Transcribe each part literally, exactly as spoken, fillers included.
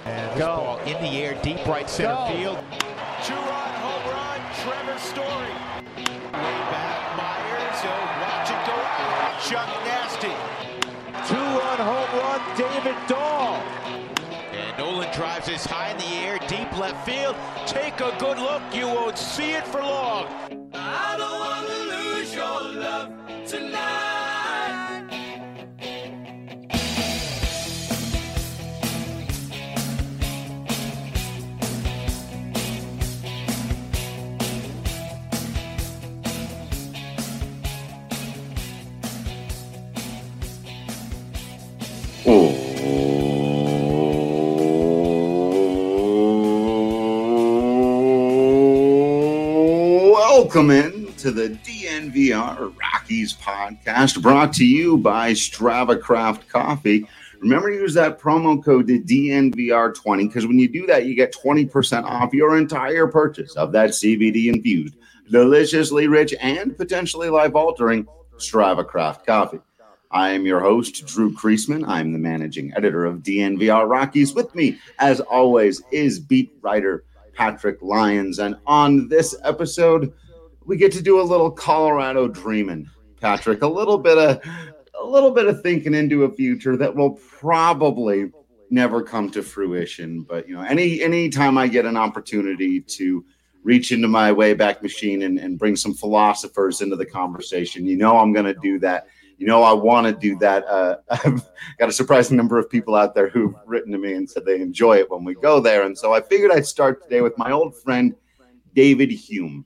And this Go. ball in the air, deep right center Go. field. Two-run home run, Trevor Story. Way back, Myers. So watch it go out. Chuck Nasty. Two-run home run, David Dahl. And Nolan drives this high in the air, deep left field. Take a good look. You won't see it for long. I don't want to lose your love tonight. Welcome in to the D N V R Rockies podcast, brought to you by Strava Craft Coffee. Remember to use that promo code D N V R twenty, because when you do that, you get twenty percent off your entire purchase of that C B D-infused, deliciously rich, and potentially life-altering Strava Craft Coffee. I am your host, Drew Kreisman. I'm the managing editor of D N V R Rockies. With me, as always, is beat writer Patrick Lyons. And on this episode, we get to do a little Colorado dreaming, Patrick. A little bit of a little bit of thinking into a future that will probably never come to fruition. But you know, any any time I get an opportunity to reach into my Wayback Machine and, and bring some philosophers into the conversation, you know I'm going to do that. You know, I want to do that. Uh, I've got a surprising number of people out there who've written to me and said they enjoy it when we go there. And so I figured I'd start today with my old friend, David Hume.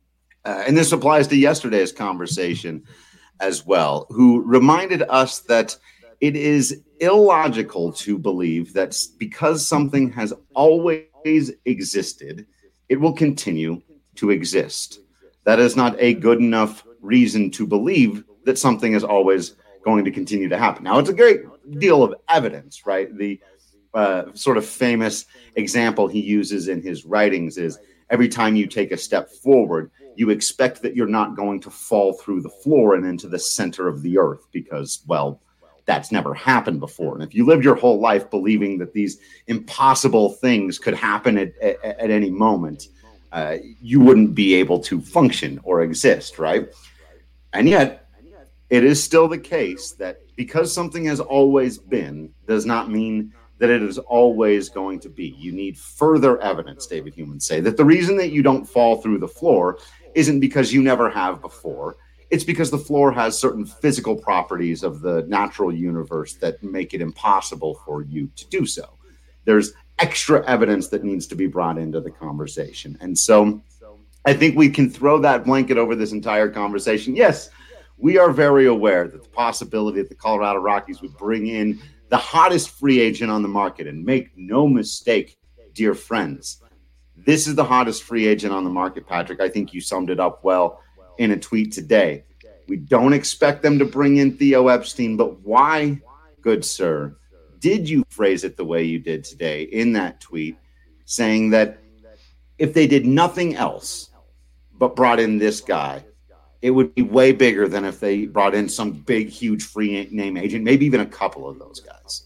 Uh, and this applies to yesterday's conversation as well, who reminded us that it is illogical to believe that because something has always existed, it will continue to exist. That is not a good enough reason to believe that something is always going to continue to happen. Now, it's a great deal of evidence, right? The uh, sort of famous example he uses in his writings is every time you take a step forward, you expect that you're not going to fall through the floor and into the center of the earth because, well, that's never happened before. And if you lived your whole life believing that these impossible things could happen at, at, at any moment, uh, you wouldn't be able to function or exist, right? And yet, it is still the case that because something has always been does not mean that it is always going to be. You need further evidence, David Hume would say, that the reason that you don't fall through the floor isn't because you never have before. It's because the floor has certain physical properties of the natural universe that make it impossible for you to do so. There's extra evidence that needs to be brought into the conversation. And so I think we can throw that blanket over this entire conversation. Yes, we are very aware that the possibility that the Colorado Rockies would bring in the hottest free agent on the market, and make no mistake, dear friends, this is the hottest free agent on the market, Patrick. I think you summed it up well in a tweet today. We don't expect them to bring in Theo Epstein, but why, good sir, did you phrase it the way you did today in that tweet, saying that if they did nothing else but brought in this guy, it would be way bigger than if they brought in some big, huge free name agent, maybe even a couple of those guys.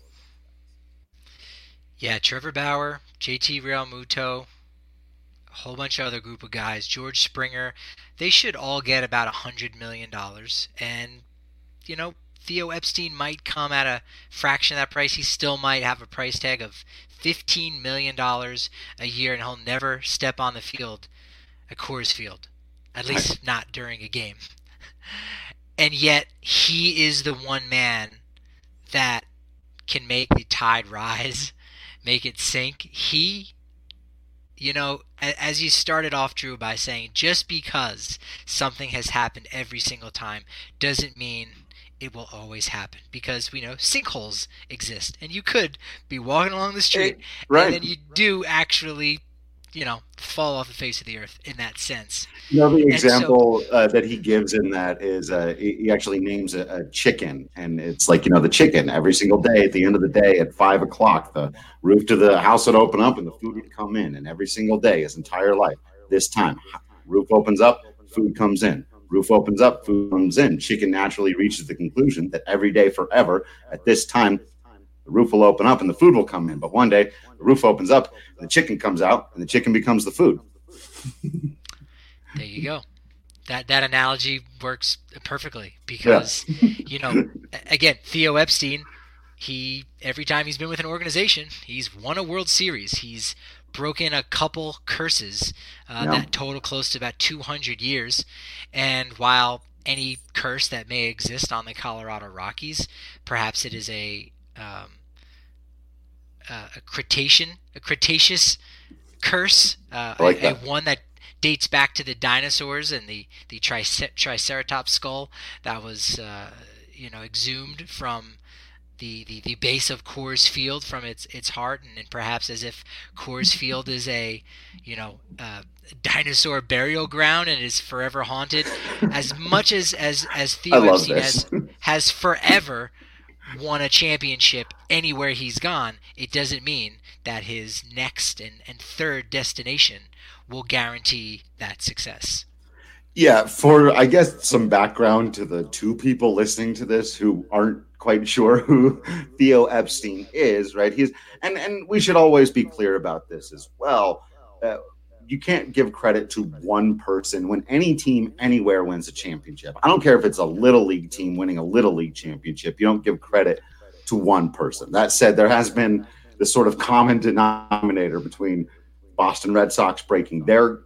Yeah, Trevor Bauer, J T Realmuto, a whole bunch of other group of guys, George Springer, they should all get about one hundred million dollars. And, you know, Theo Epstein might come at a fraction of that price. He still might have a price tag of fifteen million dollars a year, and he'll never step on the field at Coors Field. At least not during a game. And yet, he is the one man that can make the tide rise, make it sink. He, you know, as you started off, Drew, by saying just because something has happened every single time doesn't mean it will always happen, because we know sinkholes exist. And you could be walking along the street, right, and then you do actually, you know, fall off the face of the earth in that sense. You know, the example so, uh, that he gives in that is uh, he actually names a, a chicken, and it's like, you know, the chicken every single day at the end of the day at five o'clock, the roof to the house would open up and the food would come in. And every single day, his entire life, this time, roof opens up, food comes in. Roof opens up, food comes in. Chicken naturally reaches the conclusion that every day forever at this time, the roof will open up and the food will come in. But one day the roof opens up and the chicken comes out and the chicken becomes the food. There you go. That that analogy works perfectly because, yeah. you know, again, Theo Epstein, he every time he's been with an organization, he's won a World Series. He's broken a couple curses uh, yeah. that total close to about two hundred years. And while any curse that may exist on the Colorado Rockies, perhaps it is a um, uh, a Cretacean, a Cretaceous curse, uh, like a, a one that dates back to the dinosaurs and the the tricer- Triceratops skull that was uh, you know exhumed from the, the, the base of Coors Field from its its heart, and, and perhaps as if Coors Field is a you know uh, dinosaur burial ground and is forever haunted. As much as as as Theo Epstein has has forever won a championship anywhere he's gone, it doesn't mean that his next and, and third destination will guarantee that success. Yeah, for, I guess, some background to the two people listening to this who aren't quite sure who Theo Epstein is, right? He's and, and we should always be clear about this as well. Uh, you can't give credit to one person when any team anywhere wins a championship. I don't care if it's a little league team winning a little league championship. You don't give credit to one person. That said, there has been this sort of common denominator between Boston Red Sox breaking their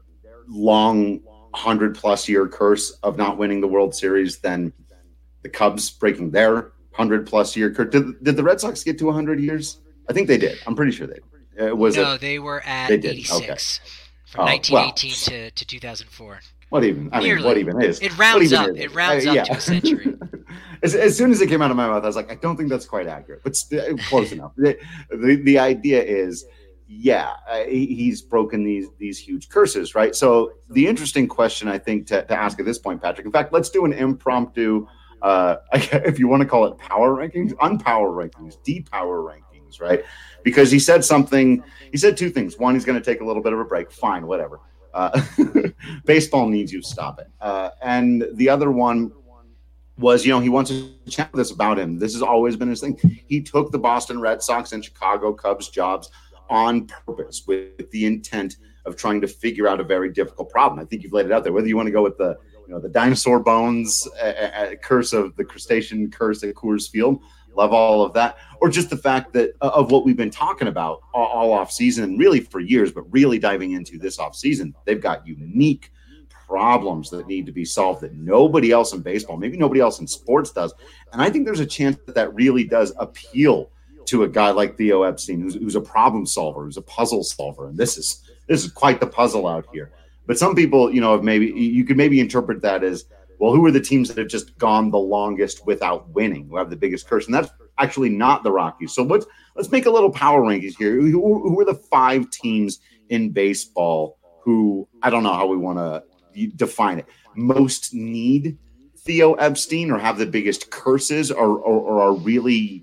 long hundred plus year curse of not winning the World Series, then the Cubs breaking their hundred plus year curse. Did, did the Red Sox get to a hundred years? I think they did. I'm pretty sure they did. Uh, was no, it? they were at they did. eighty-six Okay. from oh, nineteen eighteen well, to, to two thousand four. What even? I Nearly. mean, what even is? It rounds up. Is? It rounds uh, up yeah. to a century. as, as soon as it came out of my mouth, I was like, I don't think that's quite accurate, but st- close enough. The, the the idea is, yeah, uh, he, he's broken these these huge curses, right? So the interesting question, I think, to, to ask at this point, Patrick, in fact, let's do an impromptu, uh, if you want to call it power rankings, unpower rankings, depower rankings, right? Because he said something, he said two things. One, he's going to take a little bit of a break. Fine, whatever. Uh, baseball needs you. Stop it. Uh, and the other one was, you know, he wants to chat with us about him. This has always been his thing. He took the Boston Red Sox and Chicago Cubs jobs on purpose with the intent of trying to figure out a very difficult problem. I think you've laid it out there. Whether you want to go with the, you know, the dinosaur bones uh, uh, curse of the crustacean curse at Coors Field, love all of that, or just the fact that uh, of what we've been talking about all, all off season, really for years, but really diving into this off season, they've got unique problems that need to be solved that nobody else in baseball, maybe nobody else in sports does. And I think there's a chance that that really does appeal to a guy like Theo Epstein, who's, who's a problem solver, who's a puzzle solver. And this is, this is quite the puzzle out here. But some people, you know, have maybe, you could maybe interpret that as, well, who are the teams that have just gone the longest without winning, who have the biggest curse? And that's actually not the Rockies. So let's let's make a little power rankings here. Who, who are the five teams in baseball who, I don't know how we want to define it, most need Theo Epstein or have the biggest curses or, or, or are really,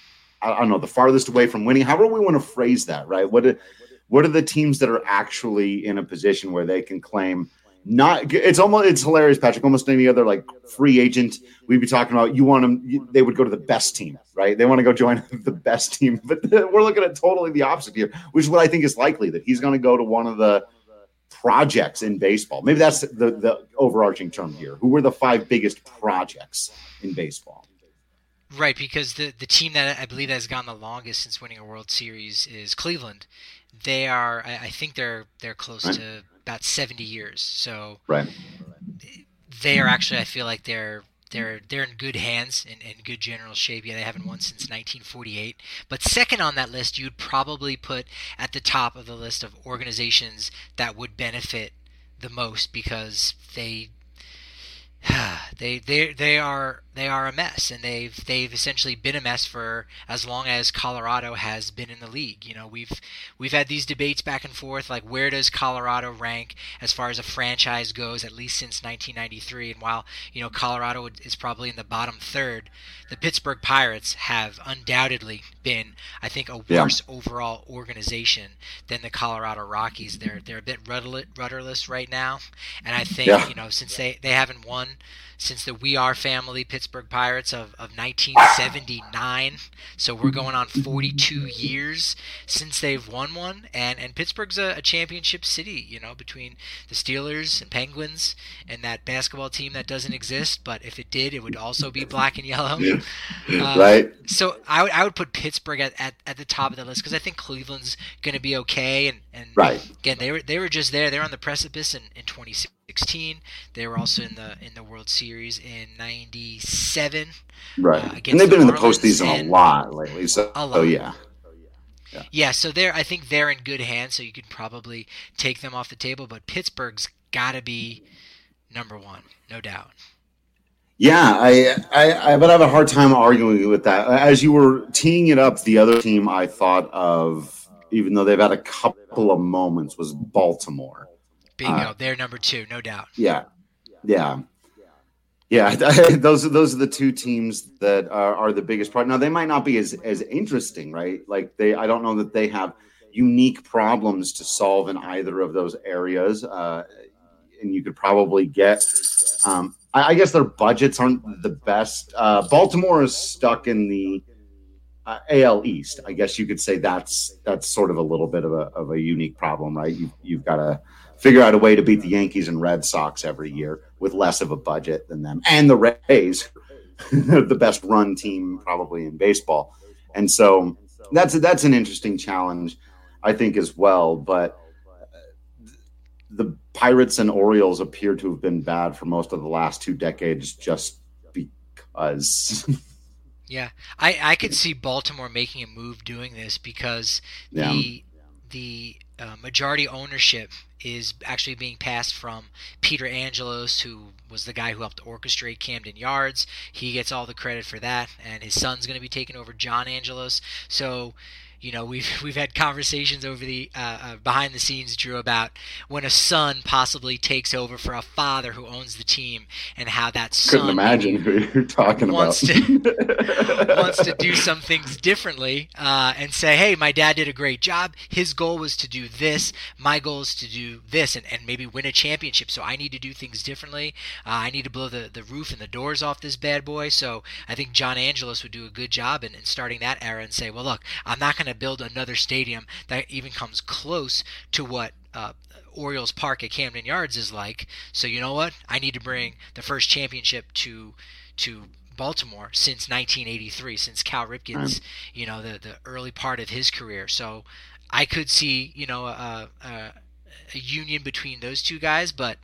I don't know, the farthest away from winning? However we want to phrase that, right? What are, what are the teams that are actually in a position where they can claim not, it's almost, it's hilarious, Patrick, almost any other like free agent we'd be talking about, you want them, they would go to the best team, right? They want to go join the best team, but we're looking at totally the opposite here, which is what I think is likely, that he's going to go to one of the projects in baseball. Maybe that's the, the overarching term here. Who were the five biggest projects in baseball? Right, because the, the team that I believe that has gone the longest since winning a World Series is Cleveland. They are, I, I think they're they're close right. to about seventy years. So right. they are actually, I feel like they're they're they're in good hands and in, in good general shape. Yeah, they haven't won since nineteen forty-eight. But second on that list, you'd probably put at the top of the list of organizations that would benefit the most because they they they they are they are a mess, and they've they've essentially been a mess for as long as Colorado has been in the league. You know, we've we've had these debates back and forth, like where does Colorado rank as far as a franchise goes, at least since nineteen ninety-three. And while, you know, Colorado is probably in the bottom third, the Pittsburgh Pirates have undoubtedly been, I think, a worse yeah. overall organization than the Colorado Rockies. They're they're a bit rudderless right now, and I think yeah. you know, since they, they haven't won since the We Are family, Pittsburgh Pittsburgh Pirates of, of nineteen seventy-nine. So we're going on forty-two years since they've won one. And, and Pittsburgh's a, a championship city, you know, between the Steelers and Penguins and that basketball team that doesn't exist. But if it did, it would also be black and yellow. Uh, right. So I would, I would put Pittsburgh at, at, at the top of the list because I think Cleveland's going to be okay. And, and right. again, they were they were just there. They're on the precipice in, in twenty sixteen. They were also in the in the World Series in ninety-seven. Right. Uh, and they've been the in the Marlins postseason a lot lately. So, a lot. so yeah. yeah. Yeah, so they're I think they're in good hands, so you could probably take them off the table. But Pittsburgh's got to be number one, no doubt. Yeah, I, I I but I have a hard time arguing with that. As you were teeing it up, the other team I thought of, even though they've had a couple of moments, was Baltimore. Bingo, Uh, they're number two, no doubt. Yeah, yeah, yeah. those are those are the two teams that are, are the biggest problem. Now they might not be as as interesting, right? Like they, I don't know that they have unique problems to solve in either of those areas, uh, and you could probably get. Um, I, I guess their budgets aren't the best. Uh, Baltimore is stuck in the uh, A L East. I guess you could say that's that's sort of a little bit of a of a unique problem, right? You, you've got to figure out a way to beat the Yankees and Red Sox every year with less of a budget than them, and the Rays, the best run team probably in baseball. And so that's that's an interesting challenge, I think, as well. But the Pirates and Orioles appear to have been bad for most of the last two decades just because. Yeah, I, I could see Baltimore making a move doing this because Yeah. the the uh, majority ownership is actually being passed from Peter Angelos, who was the guy who helped orchestrate Camden Yards. He gets all the credit for that, and his son's going to be taking over John Angelos. So, you know, we've we've had conversations over the uh, uh, behind the scenes, Drew, about when a son possibly takes over for a father who owns the team, and how that son Couldn't imagine who you're talking wants about. to wants to do some things differently uh, and say, hey, my dad did a great job. His goal was to do this. My goal is to do this and, and maybe win a championship. So I need to do things differently. Uh, I need to blow the, the roof and the doors off this bad boy. So I think John Angelos would do a good job in, in starting that era and say, well, look, I'm not going to build another stadium that even comes close to what uh, Orioles Park at Camden Yards is like. So you know what? I need to bring the first championship to to Baltimore since nineteen eighty-three, since Cal Ripken's, you know, the, the early part of his career. So I could see, you know, a, a, a union between those two guys, but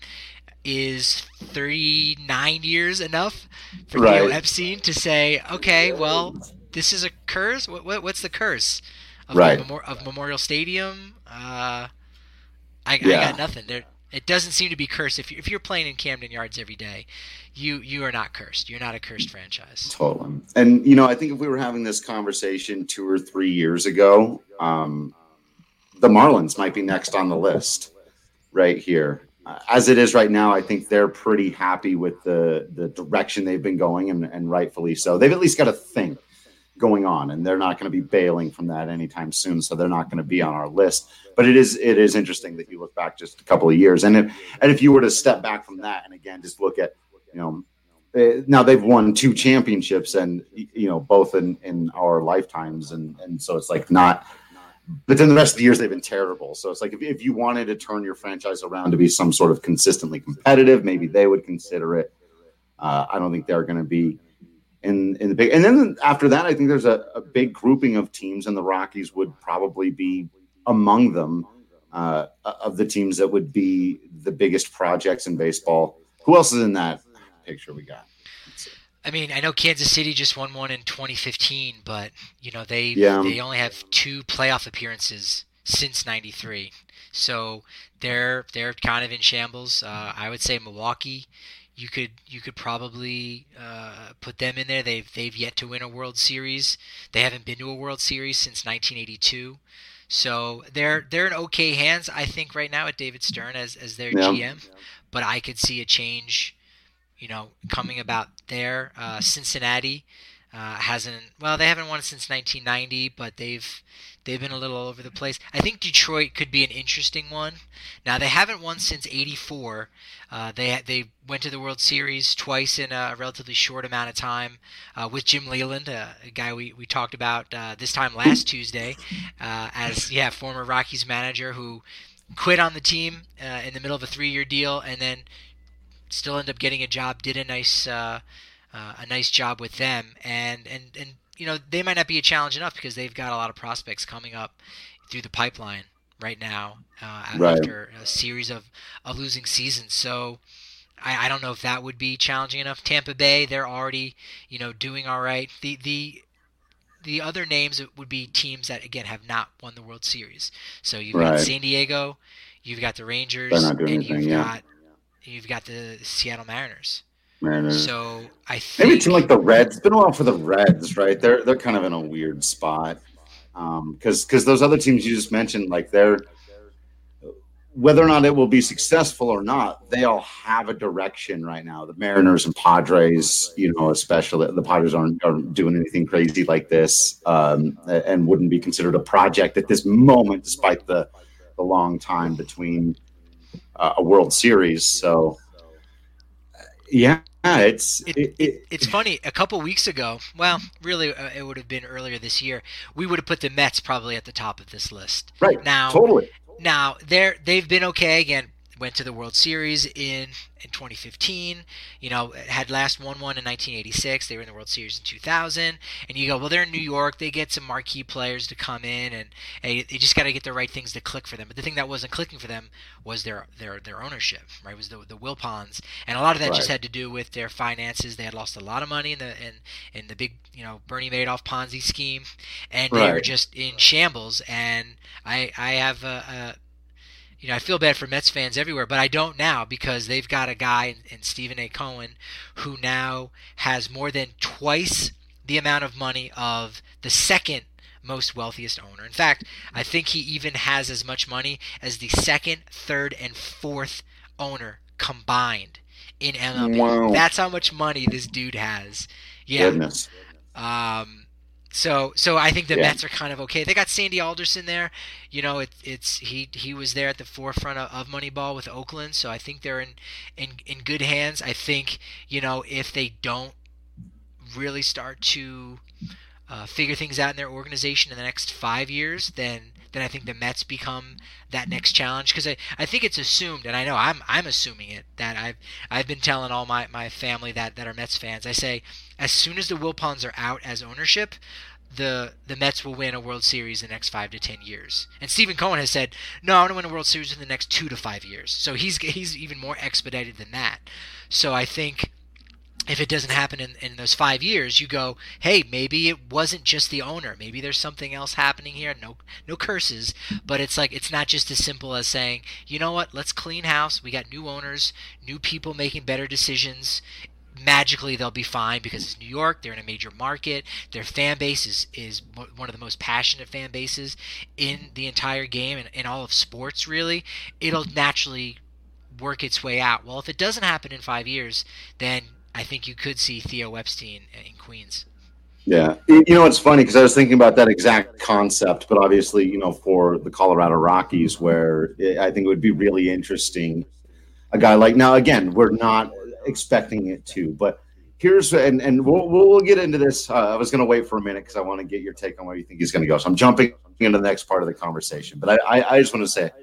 is thirty-nine years enough for Right. Theo Epstein to say, okay, well, this is a curse? What, what What's the curse? Of, Right. Memor- of Memorial Stadium? Uh, I, Yeah. I got nothing. There, it doesn't seem to be cursed. If, you, if you're playing in Camden Yards every day, you you are not cursed. You're not a cursed franchise. Totally. And, you know, I think if we were having this conversation two or three years ago, um, the Marlins might be next on the list right here. Uh, as it is right now, I think they're pretty happy with the, the direction they've been going, and, and rightfully so. They've at least got a thing going on, and they're not going to be bailing from that anytime soon, so they're not going to be on our list. But it is it is interesting that you look back just a couple of years, and if and if you were to step back from that, and again just look at, you know, eh, now they've won two championships, and you know, both in in our lifetimes, and and so it's like not. But then the rest of the years they've been terrible. So it's like if if you wanted to turn your franchise around to be some sort of consistently competitive, maybe they would consider it. Uh, I don't think they're going to be in in the big. And then after that, I think there's a, a big grouping of teams, and the Rockies would probably be among them, uh, of the teams that would be the biggest projects in baseball. Who else is in that picture we got? I mean, I know Kansas City just won one in twenty fifteen, but you know they Yeah. they only have two playoff appearances since ninety-three, so they're they're kind of in shambles. Uh, I would say Milwaukee. You could you could probably uh, put them in there. They've they've yet to win a World Series. They haven't been to a World Series since nineteen eighty-two. So they're they're in okay hands, I think, right now at David Stern as as their Yeah. G M. But I could see a change, you know, coming about there. Uh, Cincinnati, Uh, hasn't well, they haven't won since nineteen ninety, but they've they've been a little all over the place. I think Detroit could be an interesting one. Now they haven't won since eighty-four. Uh, they they went to the World Series twice in a relatively short amount of time uh, with Jim Leyland, uh, a guy we, we talked about uh, this time last Tuesday, uh, as yeah former Rockies manager who quit on the team uh, in the middle of a three-year deal and then still ended up getting a job. Did a nice. Uh, Uh, a nice job with them, and, and, and you know they might not be a challenge enough because they've got a lot of prospects coming up through the pipeline right now uh, right. after a series of, of losing seasons. So I, I don't know if that would be challenging enough. Tampa Bay, they're already you know doing all right. The the the other names would be teams that again have not won the World Series. So you've right. got San Diego, you've got the Rangers, and anything, you've yeah. got you've got the Seattle Mariners. Mariners. So I think maybe a team like the Reds. It's been a while for the Reds, right? They're they're kind of in a weird spot because um, because those other teams you just mentioned, like they're whether or not it will be successful or not, they all have a direction right now. The Mariners and Padres, you know, especially the Padres aren't, aren't doing anything crazy like this um, and wouldn't be considered a project at this moment, despite the the long time between uh, a World Series. So. Yeah, it's it, it, it, it's funny. A couple weeks ago, well, really, uh, it would have been earlier this year. We would have put the Mets probably at the top of this list. Right. Now, totally. Now they're they've been okay again. Went to the World Series in in twenty fifteen. You know, had last won one in nineteen eighty-six. They were in the World Series in two thousand. And you go, well, they're in New York. They get some marquee players to come in, and hey, they just got to get the right things to click for them. But the thing that wasn't clicking for them was their their their ownership. Right, it was the the Wilpons, and a lot of that right. just had to do with their finances. They had lost a lot of money in the in in the big you know Bernie Madoff Ponzi scheme, and they right. were just in shambles. And I I have a. a You know, I feel bad for Mets fans everywhere, but I don't now because they've got a guy in, in Stephen A. Cohen who now has more than twice the amount of money of the second most wealthiest owner. In fact, I think he even has as much money as the second, third, and fourth owner combined in M L B. Wow. That's how much money this dude has. Yeah. Goodness. Um, So, so I think the yeah. Mets are kind of okay. They got Sandy Alderson there. You know, it, it's he he was there at the forefront of, of Moneyball with Oakland. So I think they're in, in in good hands. I think you know if they don't really start to uh, figure things out in their organization in the next five years, then then I think the Mets become that next challenge. Because I, I think it's assumed, and I know I'm I'm assuming it, that I've I've been telling all my, my family that, that are Mets fans. I say as soon as the Wilpons are out as ownership, the the Mets will win a World Series in the next five to ten years. And Stephen Cohen has said, no, I want to win a World Series in the next two to five years. So he's he's even more expedited than that. So I think if it doesn't happen in, in those five years, you go, hey, maybe it wasn't just the owner. Maybe there's something else happening here. No no curses. But it's like it's not just as simple as saying, you know what, let's clean house. We got new owners, new people making better decisions. Magically they'll be fine because it's New York. They're in a major market. Their fan base is, is one of the most passionate fan bases in the entire game and in all of sports, really. It'll naturally work its way out. Well, if it doesn't happen in five years, then I think you could see Theo Epstein in Queens. Yeah. You know, it's funny because I was thinking about that exact concept, but obviously, you know, for the Colorado Rockies, where I think it would be really interesting. A guy like, now, again, we're not expecting it to, but here's, and, and we'll, we'll get into this. Uh, I was going to wait for a minute because I want to get your take on where you think he's going to go. So I'm jumping into the next part of the conversation, but I, I, I just want to say,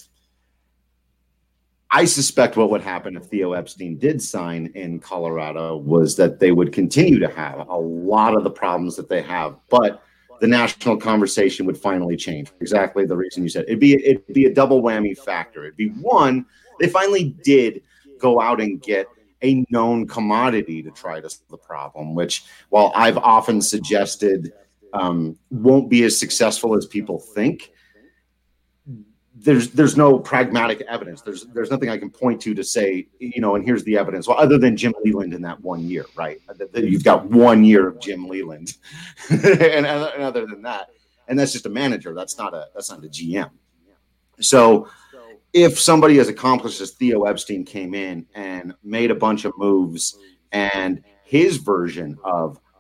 I suspect what would happen if Theo Epstein did sign in Colorado was that they would continue to have a lot of the problems that they have, but the national conversation would finally change. Exactly the reason you said. It'd be it'd be a double whammy factor. It'd be one, they finally did go out and get a known commodity to try to solve the problem, which, while I've often suggested um, won't be as successful as people think, there's there's no pragmatic evidence. There's there's nothing I can point to to say, you know, and here's the evidence. Well, other than Jim Leyland in that one year, right? You've got one year of Jim Leyland, and, and other than that, and that's just a manager. That's not a that's not a G M. So, if somebody as accomplished as Theo Epstein came in and made a bunch of moves, and his version of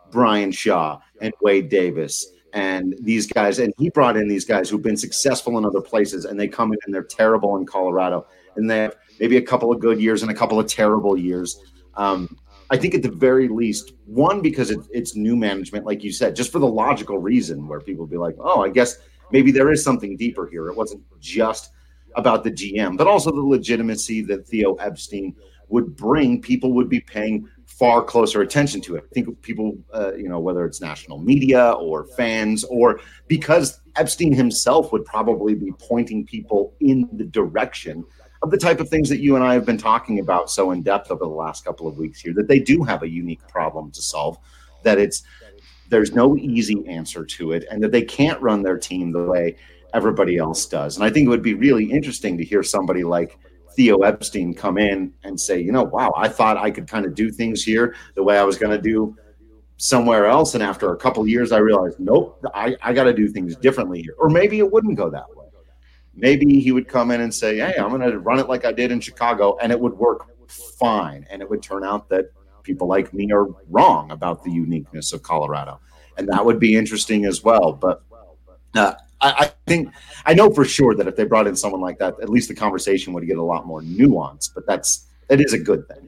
Brian Shaw and Wade Davis and these guys. And he brought in these guys who've been successful in other places, and they come in and they're terrible in Colorado. And they have maybe a couple of good years and a couple of terrible years. Um, I think at the very least, one, because it, it's new management, like you said, just for the logical reason where people be like, oh, I guess maybe there is something deeper here. It wasn't just about the G M, but also the legitimacy that Theo Epstein would bring. People would be paying far closer attention to it. I think people, uh, you know, whether it's national media or fans, or because Epstein himself would probably be pointing people in the direction of the type of things that you and I have been talking about so in depth over the last couple of weeks here, that they do have a unique problem to solve, that it's there's no easy answer to it, and that they can't run their team the way everybody else does. And I think it would be really interesting to hear somebody like Theo Epstein come in and say, you know, wow, I thought I could kind of do things here the way I was going to do somewhere else. And after a couple of years, I realized, nope, I, I got to do things differently here. Or maybe it wouldn't go that way. Maybe he would come in and say, hey, I'm going to run it like I did in Chicago, and it would work fine. And it would turn out that people like me are wrong about the uniqueness of Colorado. And that would be interesting as well. But uh, I, I think I know for sure that if they brought in someone like that, at least the conversation would get a lot more nuance. But that's that is a good thing.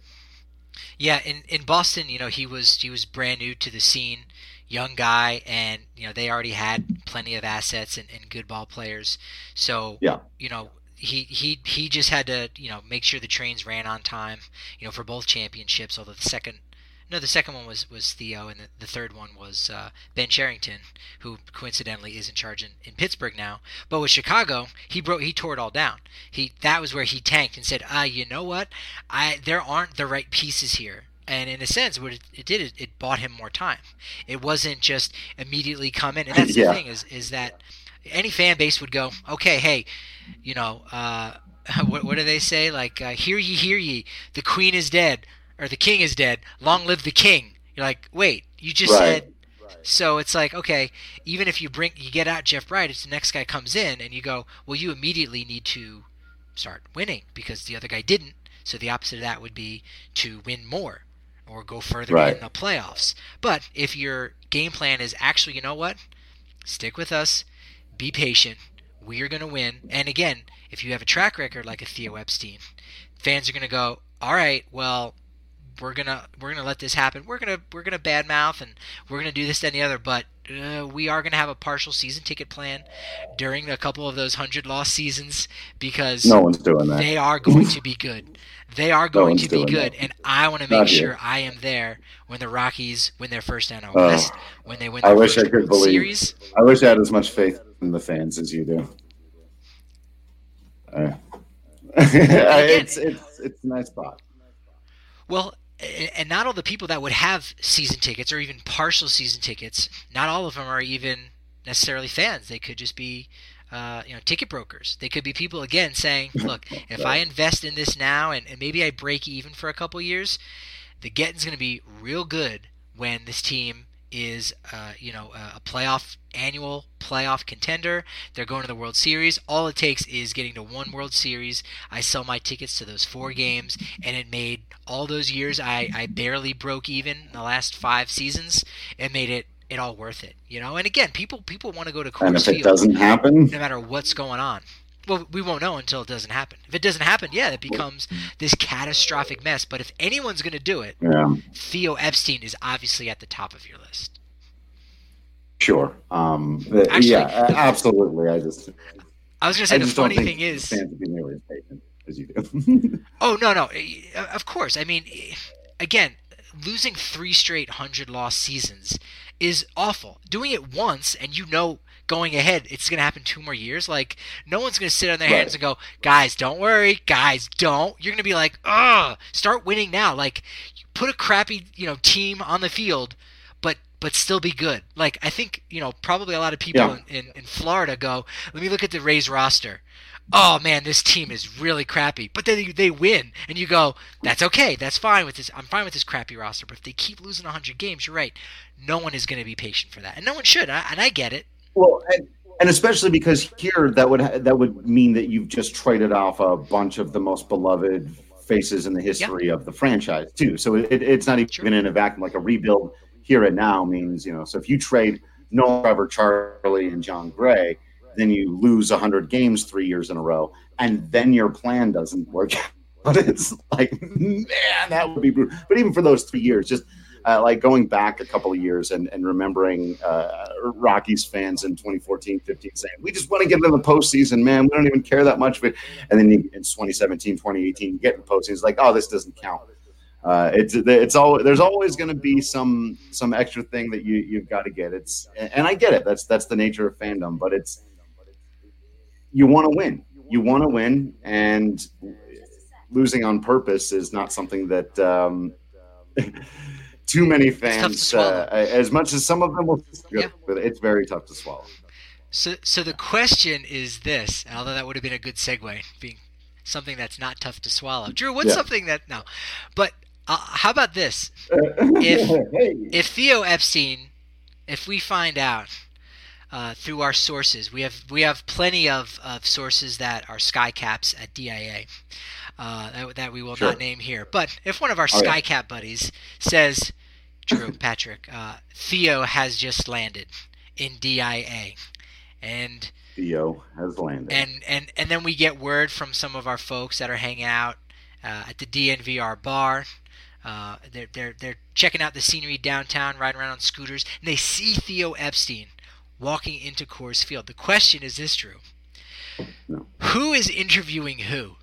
Yeah, in, in Boston, you know, he was he was brand new to the scene, young guy, and you know they already had plenty of assets and, and good ball players. So yeah, you know, he he he just had to you know make sure the trains ran on time, you know, for both championships. Although the second, no, the second one was, was Theo, and the, the third one was uh, Ben Cherington, who coincidentally is in charge in, in Pittsburgh now. But with Chicago, he broke he tore it all down. He that was where he tanked and said, ah, you know what, I there aren't the right pieces here. And in a sense, what it, it did is it bought him more time. It wasn't just immediately come in. And that's yeah. the thing is is that any fan base would go, okay, hey, you know, uh, what what do they say? Like, uh, hear ye, hear ye, the queen is dead. Or the king is dead. Long live the king. You're like, wait, you just right. said. Right. So it's like, okay, even if you bring, you get out Jeff Bridich, the next guy comes in, and you go, well, you immediately need to start winning because the other guy didn't. So the opposite of that would be to win more or go further right. in the playoffs. But if your game plan is actually, you know what, stick with us, be patient, we are going to win. And again, if you have a track record like a Theo Epstein, fans are going to go, all right, well, we're gonna we're gonna let this happen. We're gonna we're gonna badmouth and we're gonna do this and the other, but uh, we are gonna have a partial season ticket plan during a couple of those hundred loss seasons because no one's doing that. They are going to be good. They are going no to be good, that. and I want to make sure I am there when the Rockies win their first N L oh, West, when they win their I wish first I could World believe. Series. I wish I had as much faith in the fans as you do. Uh, it's it's it's a nice spot. Well. And not all the people that would have season tickets or even partial season tickets, not all of them are even necessarily fans. They could just be, uh, you know, ticket brokers. They could be people, again, saying, look, if I invest in this now and, and maybe I break even for a couple years, the getting's going to be real good when this team is, uh, you know, a playoff, annual playoff contender. They're going to the World Series. All it takes is getting to one World Series. I sell my tickets to those four games, and it made all those years I, I barely broke even in the last five seasons. It made it it all worth it, you know. And again, people people want to go to Coors And if it Field doesn't happen, no matter what's going on. Well, we won't know until it doesn't happen. If it doesn't happen, yeah, it becomes this catastrophic mess. But if anyone's going to do it, yeah. Theo Epstein is obviously at the top of your list. Sure. Um, Actually, yeah, absolutely. I just. I was going to say the funny thing is. Fans would be nearly as patient as you do. Oh no, no, of course. I mean, again, losing three straight hundred-loss seasons is awful. Doing it once, and you know. Going ahead, it's going to happen two more years. Like, no one's going to sit on their right. hands and go, guys, don't worry. Guys, don't. You're going to be like, ugh, start winning now. Like, put a crappy, you know, team on the field, but but still be good. Like, I think, you know, probably a lot of people yeah. in, in, in Florida go, let me look at the Rays roster. Oh, man, this team is really crappy. But then they, they win, and you go, that's okay. That's fine with this. I'm fine with this crappy roster. But if they keep losing one hundred games, you're right. No one is going to be patient for that. And no one should, and I, and I get it. Well, and, and especially because here that would that would mean that you've just traded off a bunch of the most beloved faces in the history yeah. of the franchise too. So it, it's not even sure. in a vacuum. Like a rebuild here and now means, you know, so if you trade Nolan, Trevor, Charlie, and John Gray, then you lose one hundred games three years in a row, and then your plan doesn't work. But it's like, man, that would be brutal. But even for those three years, just uh, like going back a couple of years and, and remembering uh, Rockies fans in twenty fourteen fifteen saying, we just want to get into the postseason, man. We don't even care that much of it. And then you, in twenty seventeen, twenty eighteen, you get in the postseason. It's like, oh, this doesn't count. Uh, it's it's all there's always going to be some some extra thing that you you've got to get. It's and I get it. That's that's the nature of fandom. But it's you want to win. You want to win, and losing on purpose is not something that um, too many fans, uh, as much as some of them will, yeah. It's very tough to swallow. So, so the question is this, although that would have been a good segue, being something that's not tough to swallow. Drew, what's yeah. something that, no, but uh, how about this? If, hey. if Theo Epstein, if we find out uh, through our sources, we have we have plenty of, of sources that are sky caps at D I A, uh, that, that we will sure. not name here. But if one of our oh, sky yeah. cap buddies says, Drew, Patrick, uh, Theo has just landed in D I A, and Theo has landed, and and and then we get word from some of our folks that are hanging out uh, at the D N V R bar. Uh, they're they're they're checking out the scenery downtown, riding around on scooters, and they see Theo Epstein walking into Coors Field. The question is this, Drew: no. Who is interviewing who?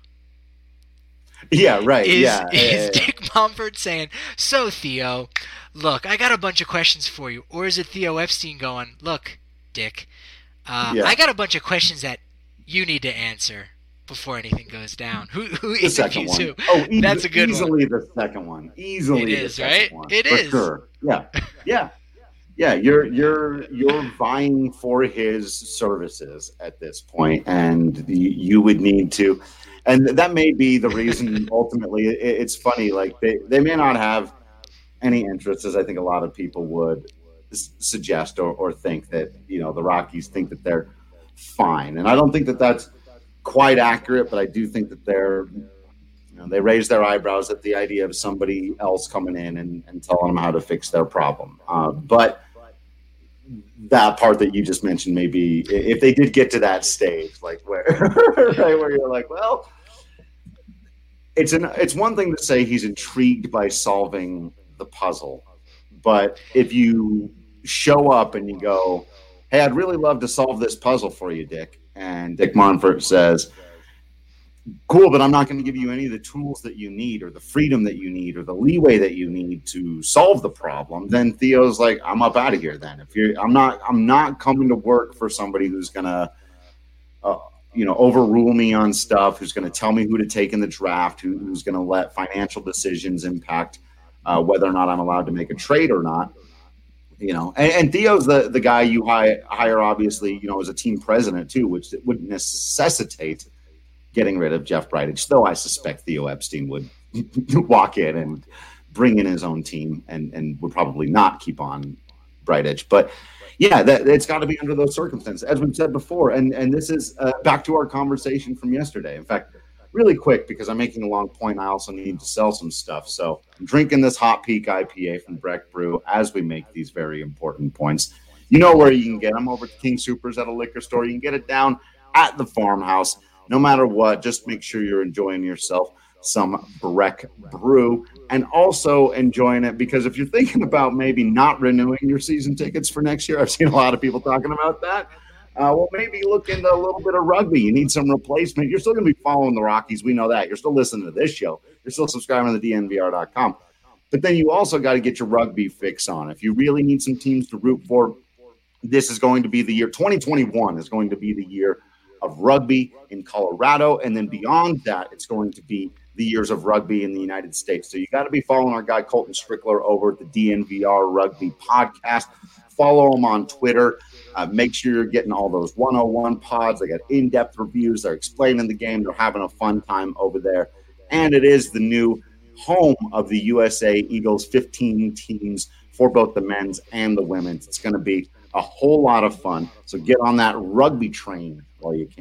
Yeah, right. Is, yeah, is yeah, yeah. Dick Mumford saying, "So Theo, look, I got a bunch of questions for you," or is it Theo Epstein going, "Look, Dick, uh, yeah. I got a bunch of questions that you need to answer before anything goes down"? Who who the second one? Who? Oh, e- that's a good easily one. the second one. Easily, it the is second right. One, it for is. Sure. Yeah, yeah, yeah. You're you're you're vying for his services at this point, and the, you would need to. And that may be the reason. Ultimately, it, it's funny. Like they, they may not have any interest, as I think a lot of people would s- suggest or, or think that, you know, the Rockies think that they're fine. And I don't think that that's quite accurate, but I do think that they're, you know, they raise their eyebrows at the idea of somebody else coming in and, and telling them how to fix their problem. Uh, but that part that you just mentioned, maybe if they did get to that stage, like where, right, where you're like, well, it's an, it's one thing to say he's intrigued by solving the puzzle, but if you show up and you go, "Hey, I'd really love to solve this puzzle for you, Dick," and Dick Monfort says, "Cool, but I'm not going to give you any of the tools that you need or the freedom that you need or the leeway that you need to solve the problem," then Theo's like, "I'm up out of here then. If you're, I'm not, I'm not coming to work for somebody who's going to, uh, you know, overrule me on stuff, who's going to tell me who to take in the draft, who, who's going to let financial decisions impact uh, whether or not I'm allowed to make a trade or not." You know, and, and Theo's the, the guy you hire, hire, obviously, you know, as a team president too, which would necessitate getting rid of Jeff Bridich, though I suspect Theo Epstein would walk in and bring in his own team and, and would probably not keep on Bridich. But yeah, that, it's got to be under those circumstances, as we've said before. And and this is uh, back to our conversation from yesterday. In fact, really quick, because I'm making a long point, I also need to sell some stuff. So I'm drinking this Hot Peak I P A from Breck Brew as we make these very important points. You know where you can get them, over at King Soopers at a liquor store. You can get it down at the farmhouse. No matter what, just make sure you're enjoying yourself some Breck Brew and also enjoying it, because if you're thinking about maybe not renewing your season tickets for next year, I've seen a lot of people talking about that. Uh, well, maybe look into a little bit of rugby. You need some replacement. You're still going to be following the Rockies. We know that. You're still listening to this show. You're still subscribing to the D N V R dot com. But then you also got to get your rugby fix on. If you really need some teams to root for, this is going to be the year. twenty twenty-one is going to be the year of rugby in Colorado, and then beyond that, it's going to be the years of rugby in the United States. So you got to be following our guy Colton Strickler over at the D N V R Rugby Podcast. Follow him on Twitter. Uh, make sure you're getting all those one oh one pods. They got in-depth reviews. They're explaining the game. They're having a fun time over there. And it is the new home of the U S A Eagles fifteen teams for both the men's and the women's. It's going to be a whole lot of fun. So get on that rugby train while you can.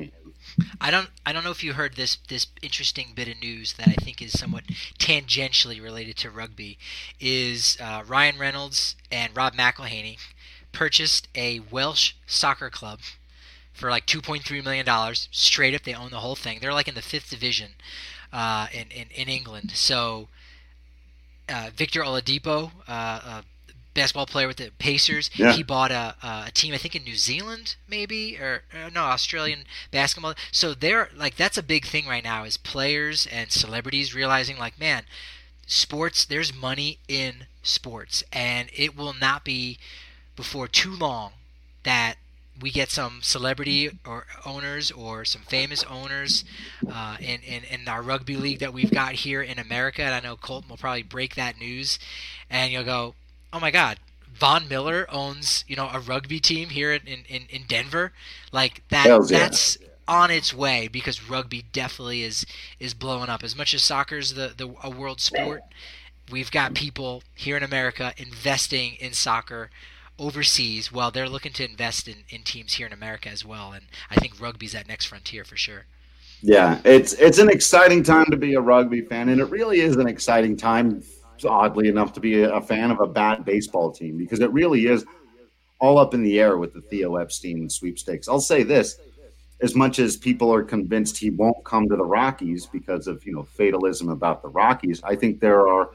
I don't I don't know if you heard this this interesting bit of news that I think is somewhat tangentially related to rugby. Is uh, Ryan Reynolds and Rob McElhaney purchased a Welsh soccer club for like two point three million dollars straight up. They own the whole thing. They're like in the fifth division uh, in, in in England. So uh, Victor Oladipo, uh, a basketball player with the Pacers, Yeah. he bought a, a team I think in New Zealand maybe or, or no Australian basketball. So they're like that's a big thing right now is players and celebrities realizing like man, sports there's money in sports and it will not be before too long that we get some celebrity or owners or some famous owners uh, in, in, in our rugby league that we've got here in America. And I know Colton will probably break that news. And you'll go, oh, my God, Von Miller owns, you know, a rugby team here in, in, in Denver. Like, that. Hells yeah. That's on its way because rugby definitely is is blowing up. As much as soccer's the, the a world sport, we've got people here in America investing in soccer overseas while they're looking to invest in, in teams here in America as well. And I think rugby's that next frontier for sure. Yeah, it's it's an exciting time to be a rugby fan, and it really is an exciting time, oddly enough, to be a fan of a bad baseball team because it really is all up in the air with the Theo Epstein sweepstakes. I'll say this, as much as people are convinced he won't come to the Rockies because of, you know, fatalism about the Rockies, I think there are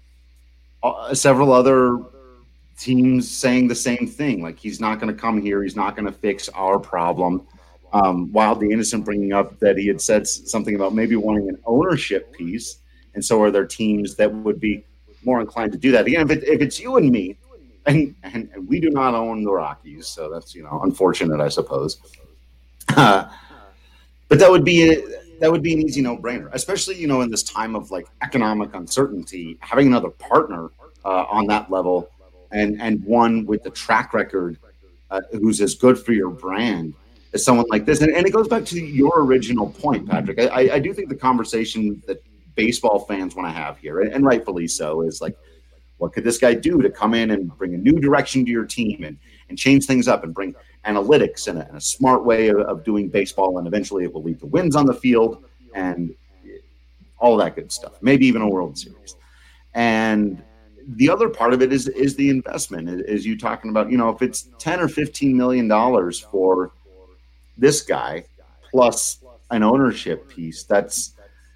uh, several other teams saying the same thing. Like, he's not going to come here. He's not going to fix our problem. Um, Wildly Innocent bringing up that he had said something about maybe wanting an ownership piece. And so are there teams that would be more inclined to do that? Again, if, it, if it's you and me, and, and, and we do not own the Rockies, so that's, you know, unfortunate, I suppose. Uh, but that would be a, that would be an easy no-brainer, especially, you know, in this time of like economic uncertainty, having another partner uh, on that level. And and one with the track record uh, who's as good for your brand as someone like this. And, and it goes back to your original point, Patrick. I, I do think the conversation that baseball fans want to have here, and, and rightfully so, is like, what could this guy do to come in and bring a new direction to your team and, and change things up and bring analytics and a, and a smart way of, of doing baseball, and eventually it will lead to wins on the field and all that good stuff, maybe even a World Series. And the other part of it is is the investment. Is you talking about, you know, if it's ten or fifteen million dollars for this guy plus an ownership piece, that's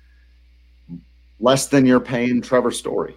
less than you're paying Trevor Story.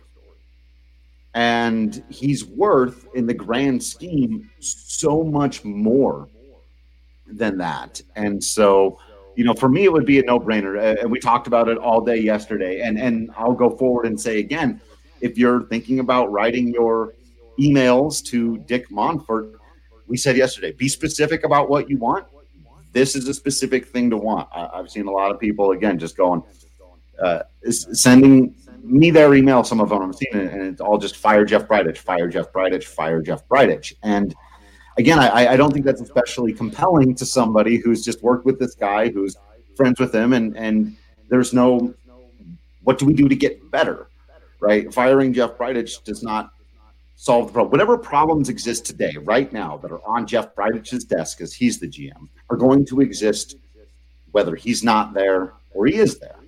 And he's worth, in the grand scheme, so much more than that. And so, you know, for me, it would be a no-brainer. And we talked about it all day yesterday. And and I'll go forward and say again, if you're thinking about writing your emails to Dick Monfort, we said yesterday, be specific about what you want. This is a specific thing to want. I, I've seen a lot of people, again, just going, uh, sending me their email, some of them I'm seeing it, and it's all just fire Jeff Bridich, fire Jeff Bridich, fire Jeff Bridich. And again, I, I don't think that's especially compelling to somebody who's just worked with this guy, who's friends with him, and, and there's no, what do we do to get better? Right? Firing Jeff Bridich does not solve the problem. Whatever problems exist today, right now, that are on Jeff Bridich's desk as he's the G M, are going to exist whether he's not there or he is there.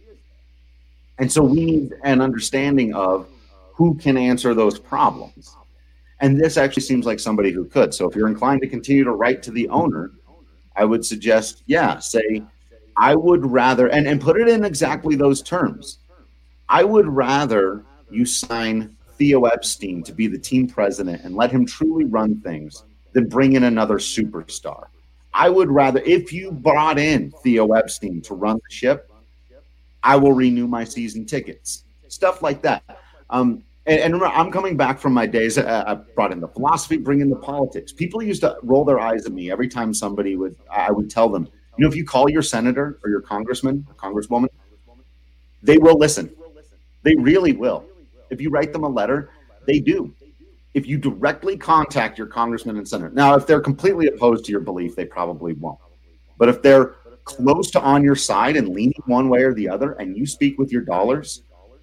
And so we need an understanding of who can answer those problems. And this actually seems like somebody who could. So if you're inclined to continue to write to the owner, I would suggest, yeah, say, I would rather, and, and put it in exactly those terms. I would rather you sign Theo Epstein to be the team president and let him truly run things than bring in another superstar. I would rather, if you brought in Theo Epstein to run the ship, I will renew my season tickets. Stuff like that. Um, and, and remember, I'm coming back from my days. Uh, I brought in the philosophy, bring in the politics. People used to roll their eyes at me every time somebody would, I would tell them, you know, if you call your senator or your congressman or congresswoman, they will listen. They really will. If you write them a letter, they do. If you directly contact your congressman and senator. Now, if they're completely opposed to your belief, they probably won't. But if they're close to on your side and leaning one way or the other, and you speak with your dollars,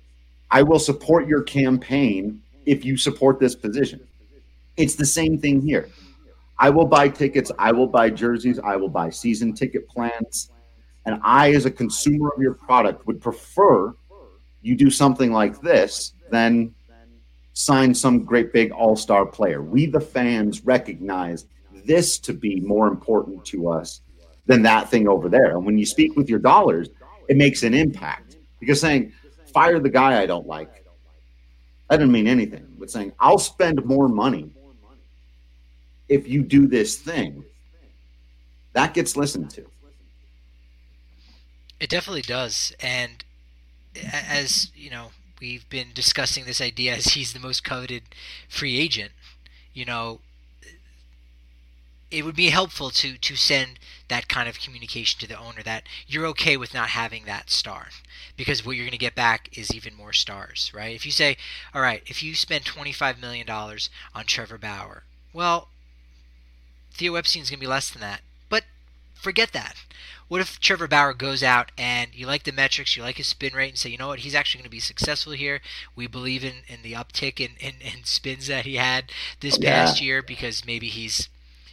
I will support your campaign if you support this position. It's the same thing here. I will buy tickets. I will buy jerseys. I will buy season ticket plans. And I, as a consumer of your product, would prefer you do something like this than sign some great big all-star player. We, the fans, recognize this to be more important to us than that thing over there. And when you speak with your dollars, it makes an impact. Because saying, fire the guy I don't like, that doesn't mean anything. But saying, I'll spend more money if you do this thing, that gets listened to. It definitely does. And as, you know, we've been discussing this idea as he's the most coveted free agent, you know, it would be helpful to, to send that kind of communication to the owner that you're okay with not having that star, because what you're going to get back is even more stars, right? If you say, all right, if you spend twenty-five million dollars on Trevor Bauer, well, Theo Epstein's going to be less than that. But forget that. What if Trevor Bauer goes out and you like the metrics, you like his spin rate, and say, you know what, he's actually going to be successful here. We believe in, in the uptick in, in, in spins that he had this Yeah. past year because maybe he's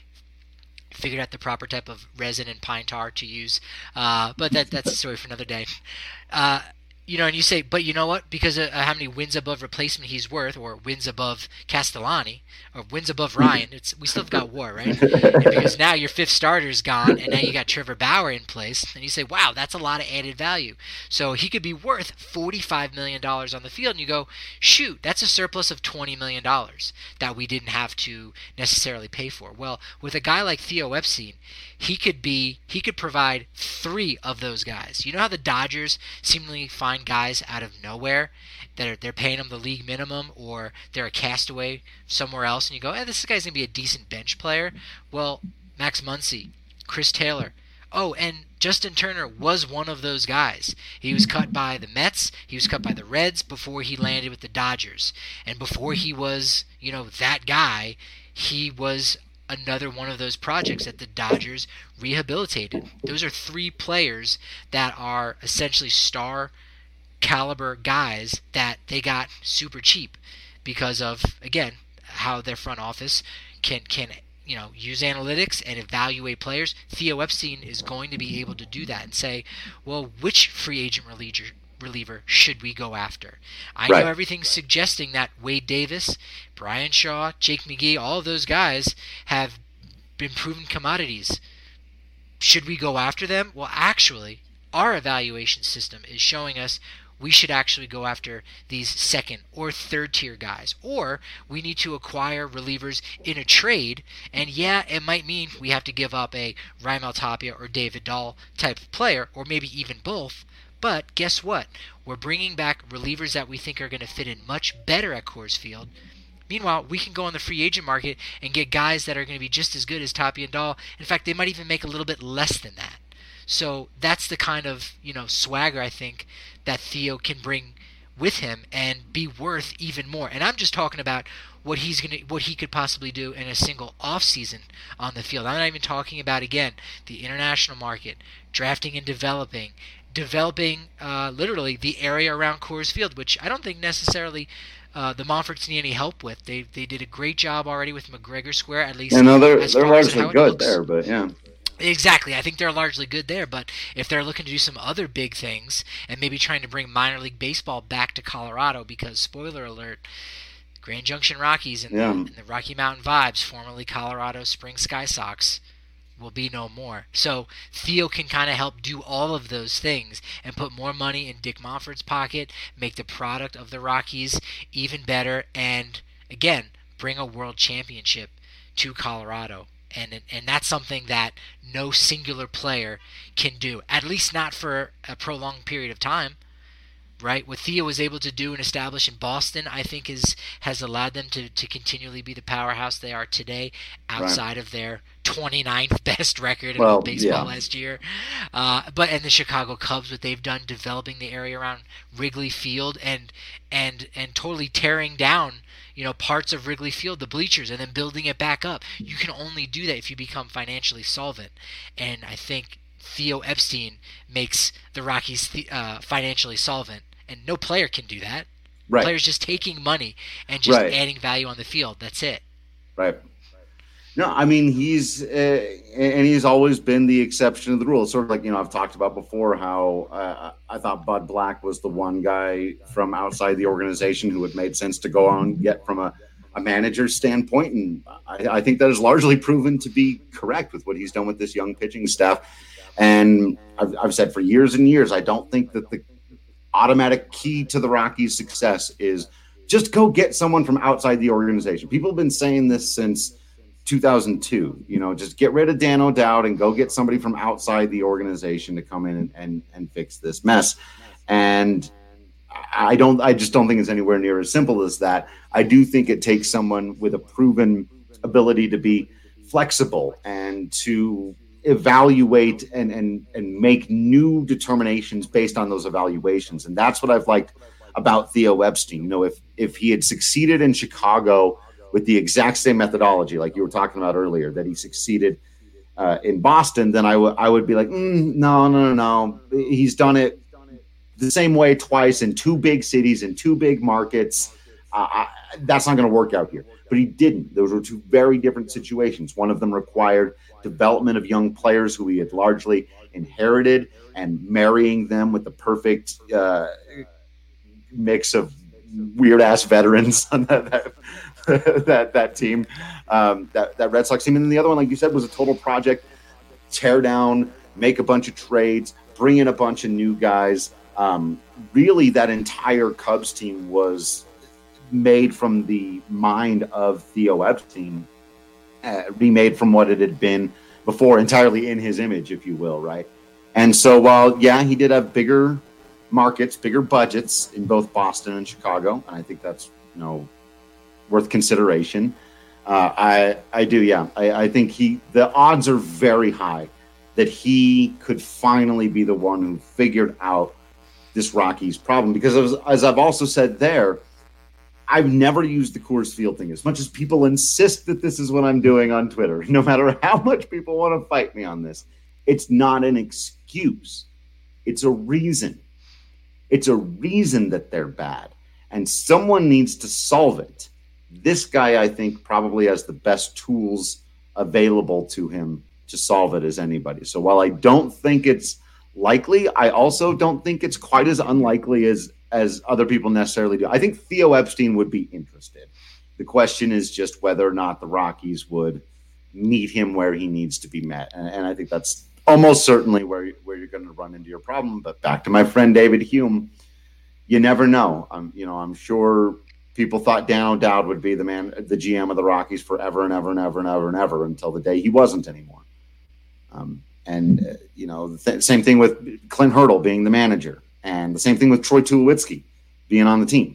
figured out the proper type of resin and pine tar to use. Uh, but that that's a story for another day. Uh, you know, and you say, but you know what? Because of how many wins above replacement he's worth, or wins above Castellani, or wins above Ryan, it's we still have got WAR, right? And because now your fifth starter's gone, and now you got Trevor Bauer in place, and you say, wow, that's a lot of added value. So he could be worth forty-five million dollars on the field, and you go, shoot, that's a surplus of twenty million dollars that we didn't have to necessarily pay for. Well, with a guy like Theo Epstein, he could be, he could provide three of those guys. You know how the Dodgers seemingly find guys out of nowhere that are, they're paying them the league minimum, or they're a castaway somewhere else, and you go, eh, this guy's going to be a decent bench player. Well, Max Muncy, Chris Taylor, oh, and Justin Turner was one of those guys. He was cut by the Mets, he was cut by the Reds before he landed with the Dodgers. And before he was, you know, that guy, he was another one of those projects that the Dodgers rehabilitated. Those are three players that are essentially star caliber guys that they got super cheap because of, again, how their front office can can you know use analytics and evaluate players. Theo Epstein is going to be able to do that and say, well, which free agent reliever reliever should we go after? I Right. know everything's suggesting that Wade Davis, Brian Shaw, Jake McGee, all of those guys have been proven commodities. Should we go after them? Well, actually, our evaluation system is showing us we should actually go after these second or third tier guys, or we need to acquire relievers in a trade. And yeah, it might mean we have to give up a Raimel Tapia or David Dahl type of player, or maybe even both. But guess what? We're bringing back relievers that we think are going to fit in much better at Coors Field. Meanwhile, we can go on the free agent market and get guys that are going to be just as good as Tapia and Dahl. In fact, they might even make a little bit less than that. So that's the kind of, you know, swagger I think that Theo can bring with him and be worth even more. And I'm just talking about what he's gonna, what he could possibly do in a single off season on the field. I'm not even talking about, again, the international market, drafting and developing, developing uh, literally the area around Coors Field, which I don't think necessarily uh, the Montforts need any help with. They they did a great job already with McGregor Square, at least. Yeah, no, they're as they're far as how largely it good looks. there, but yeah. Exactly. I think they're largely good there, but if they're looking to do some other big things and maybe trying to bring minor league baseball back to Colorado, because, spoiler alert, Grand Junction Rockies and, Yeah. the, and the Rocky Mountain Vibes, formerly Colorado Spring Sky Sox, will be no more. So Theo can kind of help do all of those things and put more money in Dick Monfort's pocket, make the product of the Rockies even better, and, again, bring a world championship to Colorado. And and that's something that no singular player can do, at least not for a prolonged period of time, right? What Theo was able to do and establish in Boston, I think, is has allowed them to, to continually be the powerhouse they are today, outside of their twenty-ninth best record in Well, all baseball yeah. last year. Uh, but and the Chicago Cubs, what they've done developing the area around Wrigley Field and and and totally tearing down, you know, parts of Wrigley Field, the bleachers, and then building it back up. You can only do that if you become financially solvent. And I think Theo Epstein makes the Rockies uh, financially solvent, and no player can do that. Right. Players just taking money and just Right. adding value on the field. That's it. Right. No, I mean, he's, uh, and he's always been the exception to the rule. It's sort of like, you know, I've talked about before how uh, I thought Bud Black was the one guy from outside the organization who had made sense to go on and get from a, a manager's standpoint. And I, I think that is largely proven to be correct with what he's done with this young pitching staff. And I've, I've said for years and years, I don't think that the automatic key to the Rockies' success is just go get someone from outside the organization. People have been saying this since two thousand two, you know, just get rid of Dan O'Dowd and go get somebody from outside the organization to come in and, and, and fix this mess. And I don't, I just don't think it's anywhere near as simple as that. I do think it takes someone with a proven ability to be flexible and to evaluate and, and, and make new determinations based on those evaluations. And that's what I've liked about Theo Epstein. You know, if, if he had succeeded in Chicago with the exact same methodology, like you were talking about earlier, that he succeeded uh, in Boston, then I would I would be like, mm, no, no, no, no. He's done it the same way twice in two big cities, in two big markets. Uh, I, that's not going to work out here. But he didn't. Those were two very different situations. One of them required development of young players who he had largely inherited and marrying them with the perfect uh, mix of weird-ass veterans on that, that that that team, um, that that Red Sox team, and then the other one, like you said, was a total project. Tear down, make a bunch of trades, bring in a bunch of new guys. Um, really, that entire Cubs team was made from the mind of Theo Epstein, uh, remade from what it had been before, entirely in his image, if you will, right? And so, while yeah, he did have bigger markets, bigger budgets in both Boston and Chicago, and I think that's you know. worth consideration. Uh, I I do, yeah. I, I think he the odds are very high that he could finally be the one who figured out this Rockies problem. Because as, as I've also said there, I've never used the Coors Field thing as much as people insist that this is what I'm doing on Twitter. No matter how much people want to fight me on this, it's not an excuse. It's a reason. It's a reason that they're bad, and someone needs to solve it. This guy, I think, probably has the best tools available to him to solve it as anybody. So while I don't think it's likely, I also don't think it's quite as unlikely as, as other people necessarily do. I think Theo Epstein would be interested. The question is just whether or not the Rockies would meet him where he needs to be met. And, and I think that's almost certainly where, where you're going to run into your problem. But back to my friend David Hume, you never know. I'm, you know, I'm sure people thought Dan O'Dowd would be the man, the G M of the Rockies forever and ever and ever and ever and ever until the day he wasn't anymore. Um, and, uh, you know, the th- same thing with Clint Hurdle being the manager, and the same thing with Troy Tulowitzki being on the team.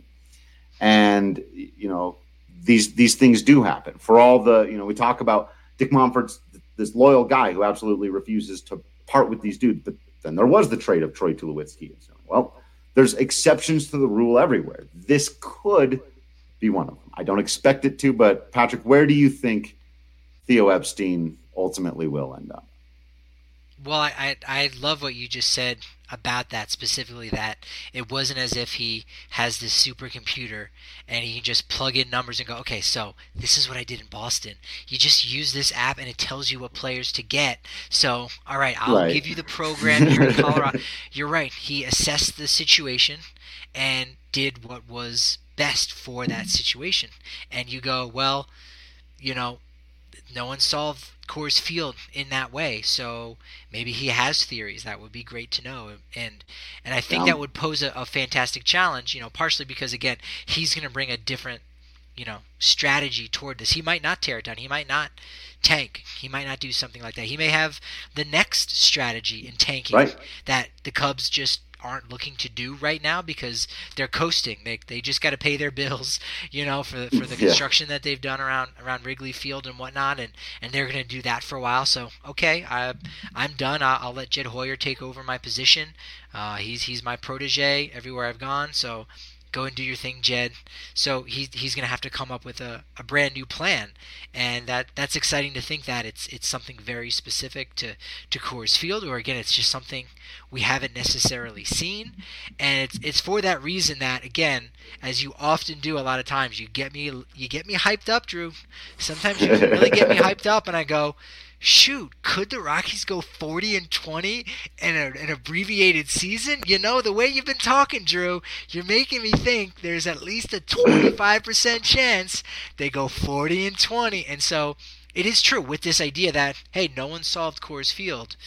And, you know, these these things do happen. For all the, you know, we talk about Dick Monfort's this loyal guy who absolutely refuses to part with these dudes. But then there was the trade of Troy Tulowitzki. So, well, there's exceptions to the rule everywhere. This could be one of them. I don't expect it to, but Patrick, where do you think Theo Epstein ultimately will end up? Well, I, I I love what you just said about that, specifically that it wasn't as if he has this supercomputer and he can just plug in numbers and go, okay, so this is what I did in Boston. You just use this app and it tells you what players to get. So, all right, I'll right. give you the program here in Colorado. You're right. He assessed the situation and did what was best for that situation. And you go, well, you know, no one solved Coors Field in that way, so maybe he has theories. That would be great to know, and and I think yeah. that would pose a, a fantastic challenge. You know, partially because again, he's going to bring a different, you know, strategy toward this. He might not tear it down. He might not tank. He might not do something like that. He may have the next strategy in tanking right. that the Cubs just aren't looking to do right now because they're coasting. They they just got to pay their bills, you know, for for the construction yeah. that they've done around around Wrigley Field and whatnot, and, and they're going to do that for a while. So okay, I I'm done. I'll, I'll let Jed Hoyer take over my position. Uh, he's he's my protege everywhere I've gone. So go and do your thing, Jed. So he, he's going to have to come up with a, a brand new plan. And that, that's exciting to think that it's it's something very specific to, to Coors Field, or again, it's just something we haven't necessarily seen. And it's it's for that reason that, again, as you often do a lot of times, you get me you get me hyped up, Drew. Sometimes you really get me hyped up, and I go, shoot, could the Rockies go forty and twenty in a, an abbreviated season? You know, the way you've been talking, Drew, you're making me think there's at least a twenty-five percent chance they go forty and twenty. And so it is true with this idea that, hey, no one solved Coors Field.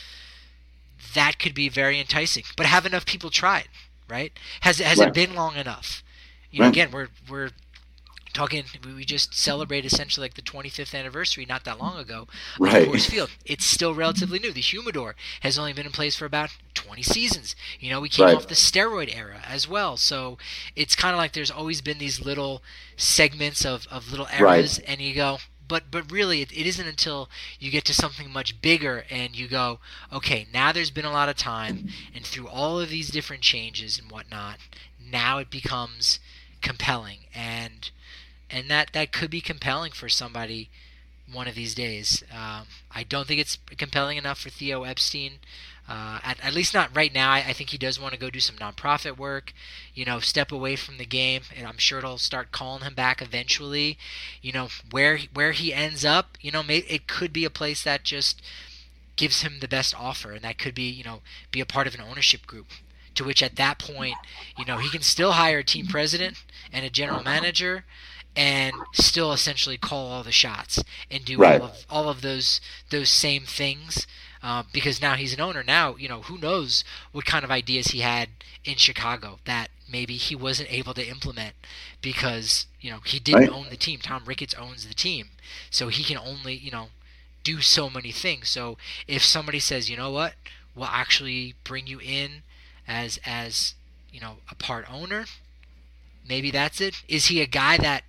That could be very enticing. But have enough people tried, right? Has, has right. it been long enough? You know, right. again, we're we're talking, we just celebrated essentially like the twenty-fifth anniversary not that long ago of right. Coors Field. It's still relatively new. The humidor has only been in place for about twenty seasons. You know, we came right. off the steroid era as well. So it's kind of like there's always been these little segments of, of little eras, right. and you go, but but really it, it isn't until you get to something much bigger and you go, okay, now there's been a lot of time, and through all of these different changes and whatnot, now it becomes compelling. And And that, that could be compelling for somebody one of these days. Um, I don't think it's compelling enough for Theo Epstein, uh, at, at least not right now. I, I think he does want to go do some nonprofit work, you know, step away from the game, and I'm sure it'll start calling him back eventually. You know, where where he ends up, you know, may, it could be a place that just gives him the best offer, and that could be, you know, be a part of an ownership group. To which at that point, you know, he can still hire a team president and a general manager, and still essentially call all the shots and do right. all of all of those those same things, uh, because now he's an owner. Now, you know, who knows what kind of ideas he had in Chicago that maybe he wasn't able to implement because, you know, he didn't right. own the team. Tom Ricketts owns the team, so he can only, you know, do so many things. So if somebody says, you know what, we'll actually bring you in as as you know, a part owner, maybe that's it. Is he a guy that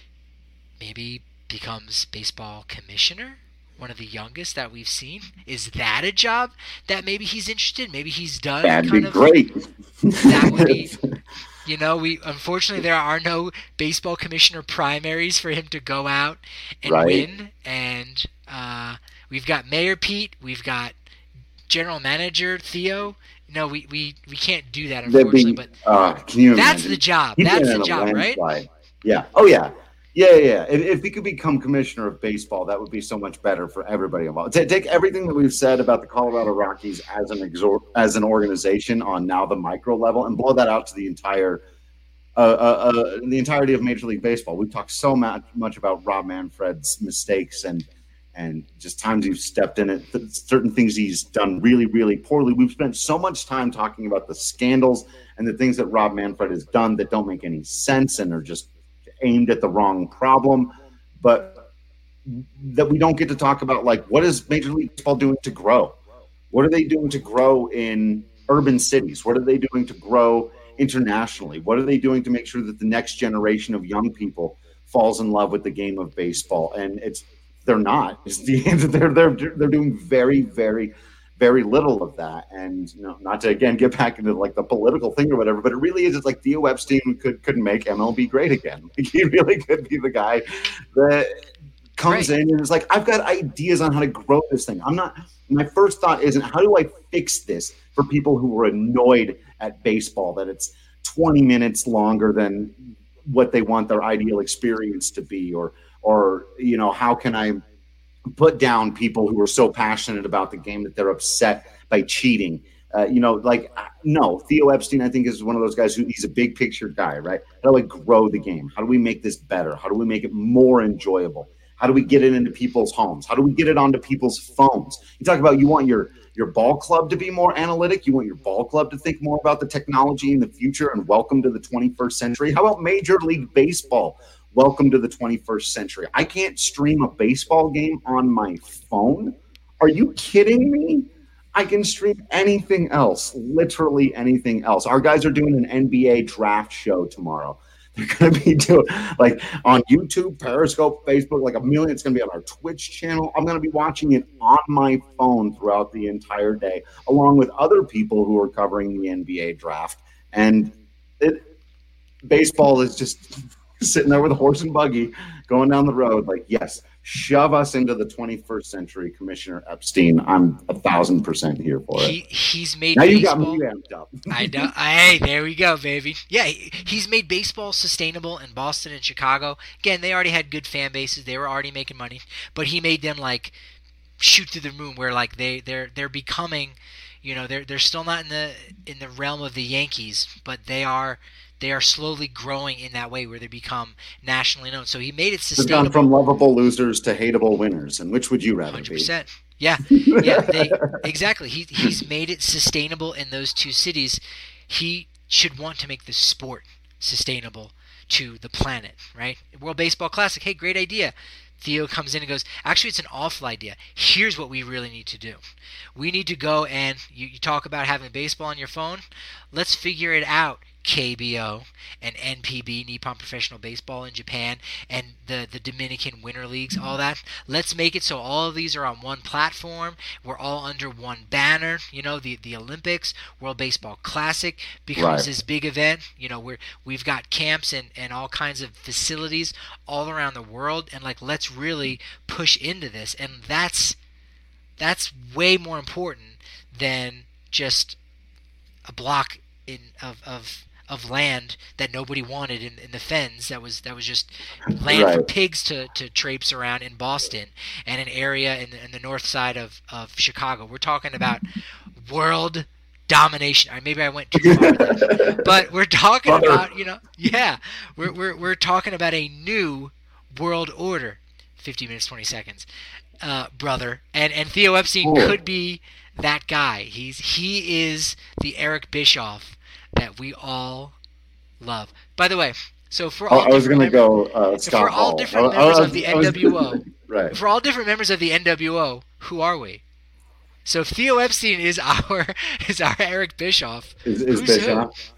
maybe becomes baseball commissioner? One of the youngest that we've seen. Is that a job that maybe he's interested in? Maybe he's done. That'd kind be of, great. That would be, you know, we unfortunately there are no baseball commissioner primaries for him to go out and right. win. And uh, we've got Mayor Pete, we've got general manager Theo. No, we, we, we can't do that, unfortunately. Be, but uh, can you that's imagine? the job. He'd that's the job, right? Yeah. Oh, yeah. Yeah, yeah, yeah. If, if he could become commissioner of baseball, that would be so much better for everybody involved. T- take everything that we've said about the Colorado Rockies as an exor- as an organization on now the micro level and blow that out to the entire uh, uh, uh, the entirety of Major League Baseball. We've talked so much, much about Rob Manfred's mistakes and and just times he's stepped in it, th- certain things he's done really, really poorly. We've spent so much time talking about the scandals and the things that Rob Manfred has done that don't make any sense and are just aimed at the wrong problem, but that we don't get to talk about, like, what is Major League Baseball doing to grow? What are they doing to grow in urban cities? What are they doing to grow internationally? What are they doing to make sure that the next generation of young people falls in love with the game of baseball? And it's they're not. It's the they're they're they're doing very, very, very little of that. And, you know, not to again get back into like the political thing or whatever, but it really is. It's like Theo Epstein could could make M L B great again. Like, he really could be the guy that comes right. in and is like, I've got ideas on how to grow this thing. I'm not. My first thought isn't how do I fix this for people who are annoyed at baseball that it's twenty minutes longer than what they want their ideal experience to be, or or you know, how can I put down people who are so passionate about the game that they're upset by cheating. Uh, you know, like, no, Theo Epstein, I think, is one of those guys who he's a big picture guy, right? How do I grow the game? How do we make this better? How do we make it more enjoyable? How do we get it into people's homes? How do we get it onto people's phones? You talk about you want your, your ball club to be more analytic. You want your ball club to think more about the technology in the future and welcome to the twenty-first century. How about Major League Baseball? Welcome to the twenty-first century. I can't stream a baseball game on my phone. Are you kidding me? I can stream anything else, literally anything else. Our guys are doing an N B A draft show tomorrow. They're going to be doing, like, on YouTube, Periscope, Facebook, like a million. It's going to be on our Twitch channel. I'm going to be watching it on my phone throughout the entire day, along with other people who are covering the N B A draft. And it baseball is just sitting there with a horse and buggy going down the road. Like, yes, shove us into the twenty-first century, Commissioner Epstein. I'm a thousand percent here for it. He, he's made now baseball. You got me amped up. I know. Hey, there we go, baby. Yeah, he, he's made baseball sustainable in Boston and Chicago. Again, they already had good fan bases. They were already making money, but he made them like shoot through the moon. Where like they they're they're becoming, you know, they're they're still not in the in the realm of the Yankees, but they are. They are slowly growing in that way where they become nationally known. So he made it sustainable. They've gone from lovable losers to hateable winners. And which would you rather one hundred percent. be? Yeah, yeah, they, exactly. He, he's made it sustainable in those two cities. He should want to make the sport sustainable to the planet, right? World Baseball Classic, hey, great idea. Theo comes in and goes, actually, it's an awful idea. Here's what we really need to do. We need to go and, you, you talk about having baseball on your phone. Let's figure it out. K B O and N P B, Nippon Professional Baseball in Japan, and the, the Dominican Winter Leagues, all that. Let's make it so all of these are on one platform. We're all under one banner. You know, the, the Olympics, World Baseball Classic becomes Right. this big event. You know, we're, we've got camps and, and all kinds of facilities all around the world, and like, let's really push into this. And that's that's way more important than just a block in of of of land that nobody wanted in, in the Fens. That was that was just land for Right. pigs to, to traipse around in Boston, and an area in the, in the north side of, of Chicago. We're talking about world domination. Or maybe I went too far there. But we're talking Brother. about, you know, yeah, we're we're we're talking about a new world order. fifty minutes, twenty seconds, uh, brother. And and Theo Epstein Cool. could be that guy. He's he is the Eric Bischoff that we all love. By the way, so for all I was different going to mem- go uh, so Scott for all Hall. different I- I members was- of the I was- N W O, Right. for all different members of the N W O, who are we? So if Theo Epstein is our is our Eric Bischoff, Is, is who's who? Bischoff?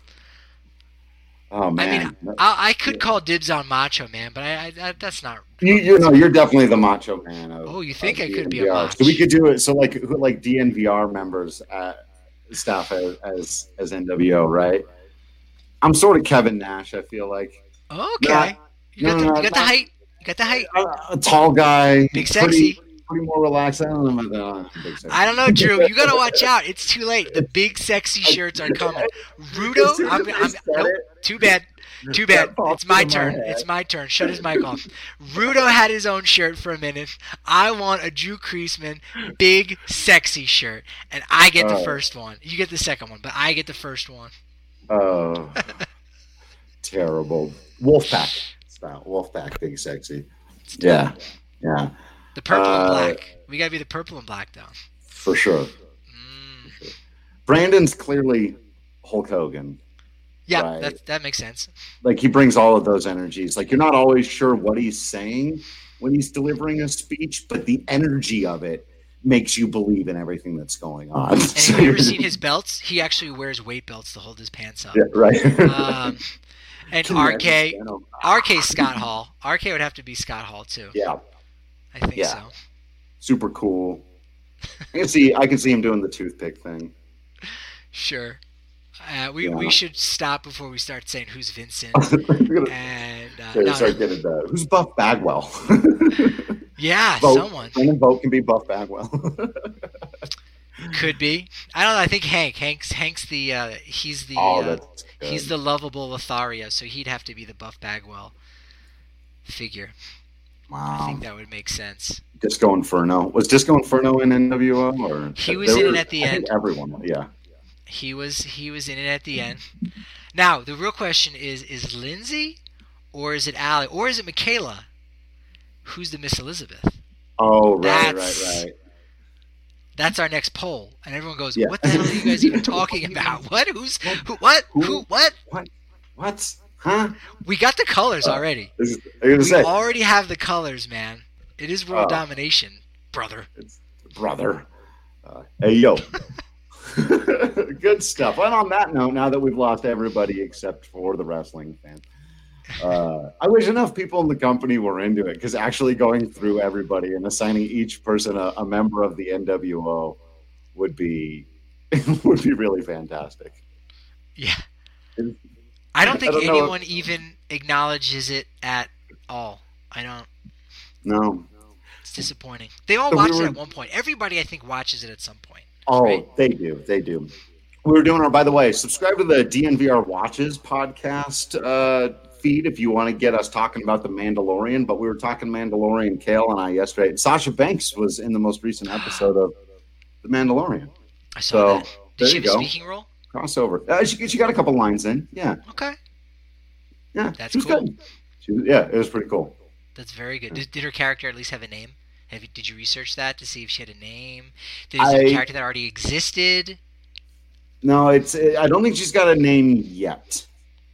Oh, I man. mean, I, I could call dibs on Macho Man, but I, I that's not. You, you know, you're definitely the macho man. Of, Oh, you think of I could be a D N V R. mach. So we could do it. So like, who- like D N V R members, uh, staff as, as as N W O, right? I'm sort of Kevin Nash. I feel like Okay, Not- you got no, the no, you got the not- height, you got the height. a, a tall guy, Big pretty, sexy. pretty more relaxed. I don't know about that. Big sexy. I don't know, Drew. You gotta watch out. It's too late. The big sexy shirts are coming. Rudo, As soon I'm, as I I'm said nope. it, Too bad. Too bad. that popped It's my into my turn. head. It's my turn. Shut his mic off. Rudo had his own shirt for a minute. I want a Drew Creasman big sexy shirt, and I get the Oh. first one. You get the second one, but I get the first one. Oh, terrible. Wolfpack style. Wolfpack, big sexy. Yeah, yeah, The purple and Uh, black. We gotta be the purple and black though. for sure. Mm. Brandon's clearly Hulk Hogan. Yeah, Right. that that makes sense. Like he brings all of those energies. Like you're not always sure what he's saying when he's delivering a speech, but the energy of it makes you believe in everything that's going on. And have you ever seen his belts? He actually wears weight belts to hold his pants up. Yeah, right. Um, and Can you R K, imagine? You know, R K Scott Hall. R K would have to be Scott Hall too. Yeah, I think Yeah. so. super cool. I can see. I can see him doing the toothpick thing. Sure. Uh, we Yeah. we should stop before we start saying who's Vincent. We're gonna And uh, okay, no, start no. getting that. Who's Buff Bagwell? Yeah, Vote. someone Brendan Vogt can be Buff Bagwell. could be. I don't know. I think Hank. Hank's Hank's the uh, he's the oh, uh, that's good. he's the lovable Lothario, so he'd have to be the Buff Bagwell figure. I wow. think that would make sense. Disco Inferno was Disco Inferno in N W O or He was They in it were- at the I think end. Everyone, yeah. He was he was in it at the end. Now the real question is: is Lindsay, or is it Allie, or is it Michaela? Who's the Miss Elizabeth? Oh, right, That's- right, right. That's our next poll, and everyone goes, Yeah. "What the hell are you guys even talking about? What? Who's who? What? Who? What?" What? What? Huh? We got the colors Uh, already. This is, I was We gonna say, already have the colors, man. It is world Oh. domination, brother. brother. Uh, hey, yo. Good stuff. And on that note, now that we've lost everybody except for the wrestling fan, uh, I wish enough people in the company were into it, because actually going through everybody and assigning each person a, a member of the N W O would be would be really fantastic. Yeah. I don't think I don't know anyone if- even acknowledges it at all. I don't. No. It's disappointing. They all So we watched were- it at one point. Everybody, I think, watches it at some point. Oh, Right. they do. They do. We were doing our, by the way, subscribe to the D N V R Watches podcast uh, feed if you want to get us talking about The Mandalorian. But we were talking Mandalorian, Kale and I, yesterday. And Sasha Banks was in the most recent episode of The Mandalorian. I saw So, that. there Did she you have a go. speaking role? Crossover. Uh, she, she got a couple lines in. Yeah. Okay. Yeah. That's she was cool. good. She was, yeah, it was pretty cool. That's very good. Did, did her character at least have a name? Have you, did you research that to see if she had a name? Did I- it a character that already existed? No, it's. I don't think she's got a name yet.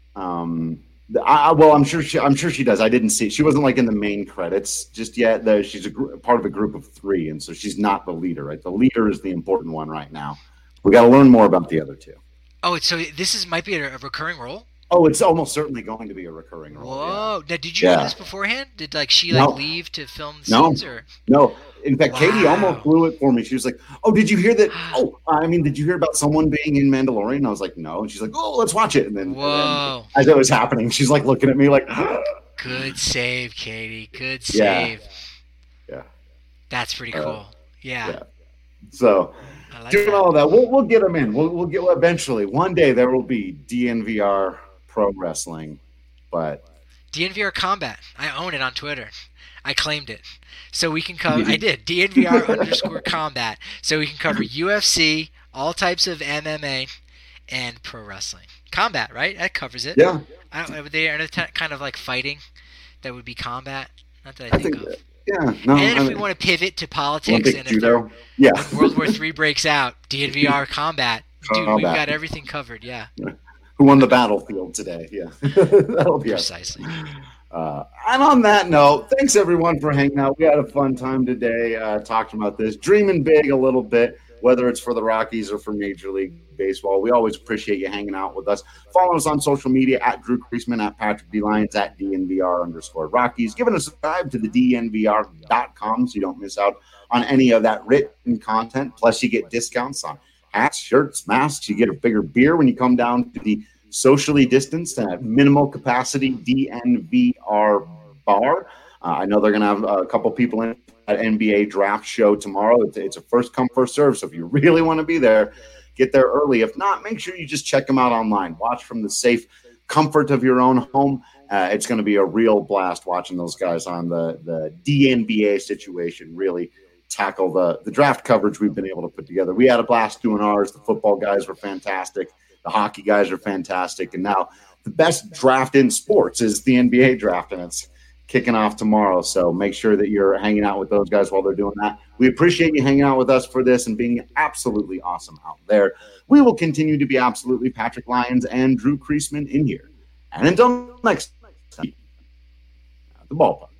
Um, I, I- well, I'm sure she. I'm sure she does. I didn't see. She wasn't like in the main credits just yet. Though she's a gr- part of a group of three, and so she's not the leader. Right, the leader is the important one right now. We got to learn more about the other two. Oh, so this is might be a, a recurring role? Oh, it's almost certainly going to be a recurring role. Whoa! Now, did you know Yeah. this beforehand? Did like she like No. leave to film No. scenes or? No, in fact, Katie Wow. almost blew it for me. She was like, "Oh, did you hear that? Oh, I mean, did you hear about someone being in Mandalorian?" And I was like, "No." And she's like, "Oh, let's watch it." And then, and then Whoa! as it was happening, she's like looking at me like, Good save, Katie. Good Yeah. save. "Yeah." That's pretty Uh, cool. yeah. yeah. So. I like Doing that. all that, we'll we'll get them in. We'll we'll get eventually. One day there will be D N V R Pro Wrestling, but D N V R Combat. I own it on Twitter. I claimed it. So we can cover, I did, D N V R underscore combat. So we can cover U F C, all types of M M A, and pro wrestling. Combat, right? That covers it. yeah, I don't, are they are they kind of like fighting that would be combat? Not that I, I think, think of. yeah. No, And then I if we mean, want to pivot to politics Olympic and if there- judo. Yeah, when World War Three breaks out, D N V R combat. Dude, we've Combat. got everything covered, yeah. who won the battlefield today? Yeah, that'll be us. Precisely. Uh, and on that note, thanks everyone for hanging out. We had a fun time today uh, talking about this, dreaming big a little bit, whether it's for the Rockies or for Major League Baseball. We always appreciate you hanging out with us. Follow us on social media at Drew Creasman, at Patrick D. Lyons, at D N V R underscore Rockies. Give us a subscribe to the D N V R dot com so you don't miss out on any of that written content. Plus, you get discounts on hats, shirts, masks. You get a bigger beer when you come down to the socially distanced and at minimal capacity D N V R bar. Uh, I know they're going to have a couple people in at N B A draft show tomorrow. It's, it's a first come, first serve. So if you really want to be there, get there early. If not, make sure you just check them out online. Watch from the safe comfort of your own home. Uh, it's going to be a real blast watching those guys on the, the D N B A situation really tackle the, the draft coverage we've been able to put together. We had a blast doing ours. The football guys were fantastic. The hockey guys are fantastic. And now the best draft in sports is the N B A draft, and it's kicking off tomorrow. So make sure that you're hanging out with those guys while they're doing that. We appreciate you hanging out with us for this and being absolutely awesome out there. We will continue to be absolutely Patrick Lyons and Drew Creasman in here. And until next time, at the ballpark.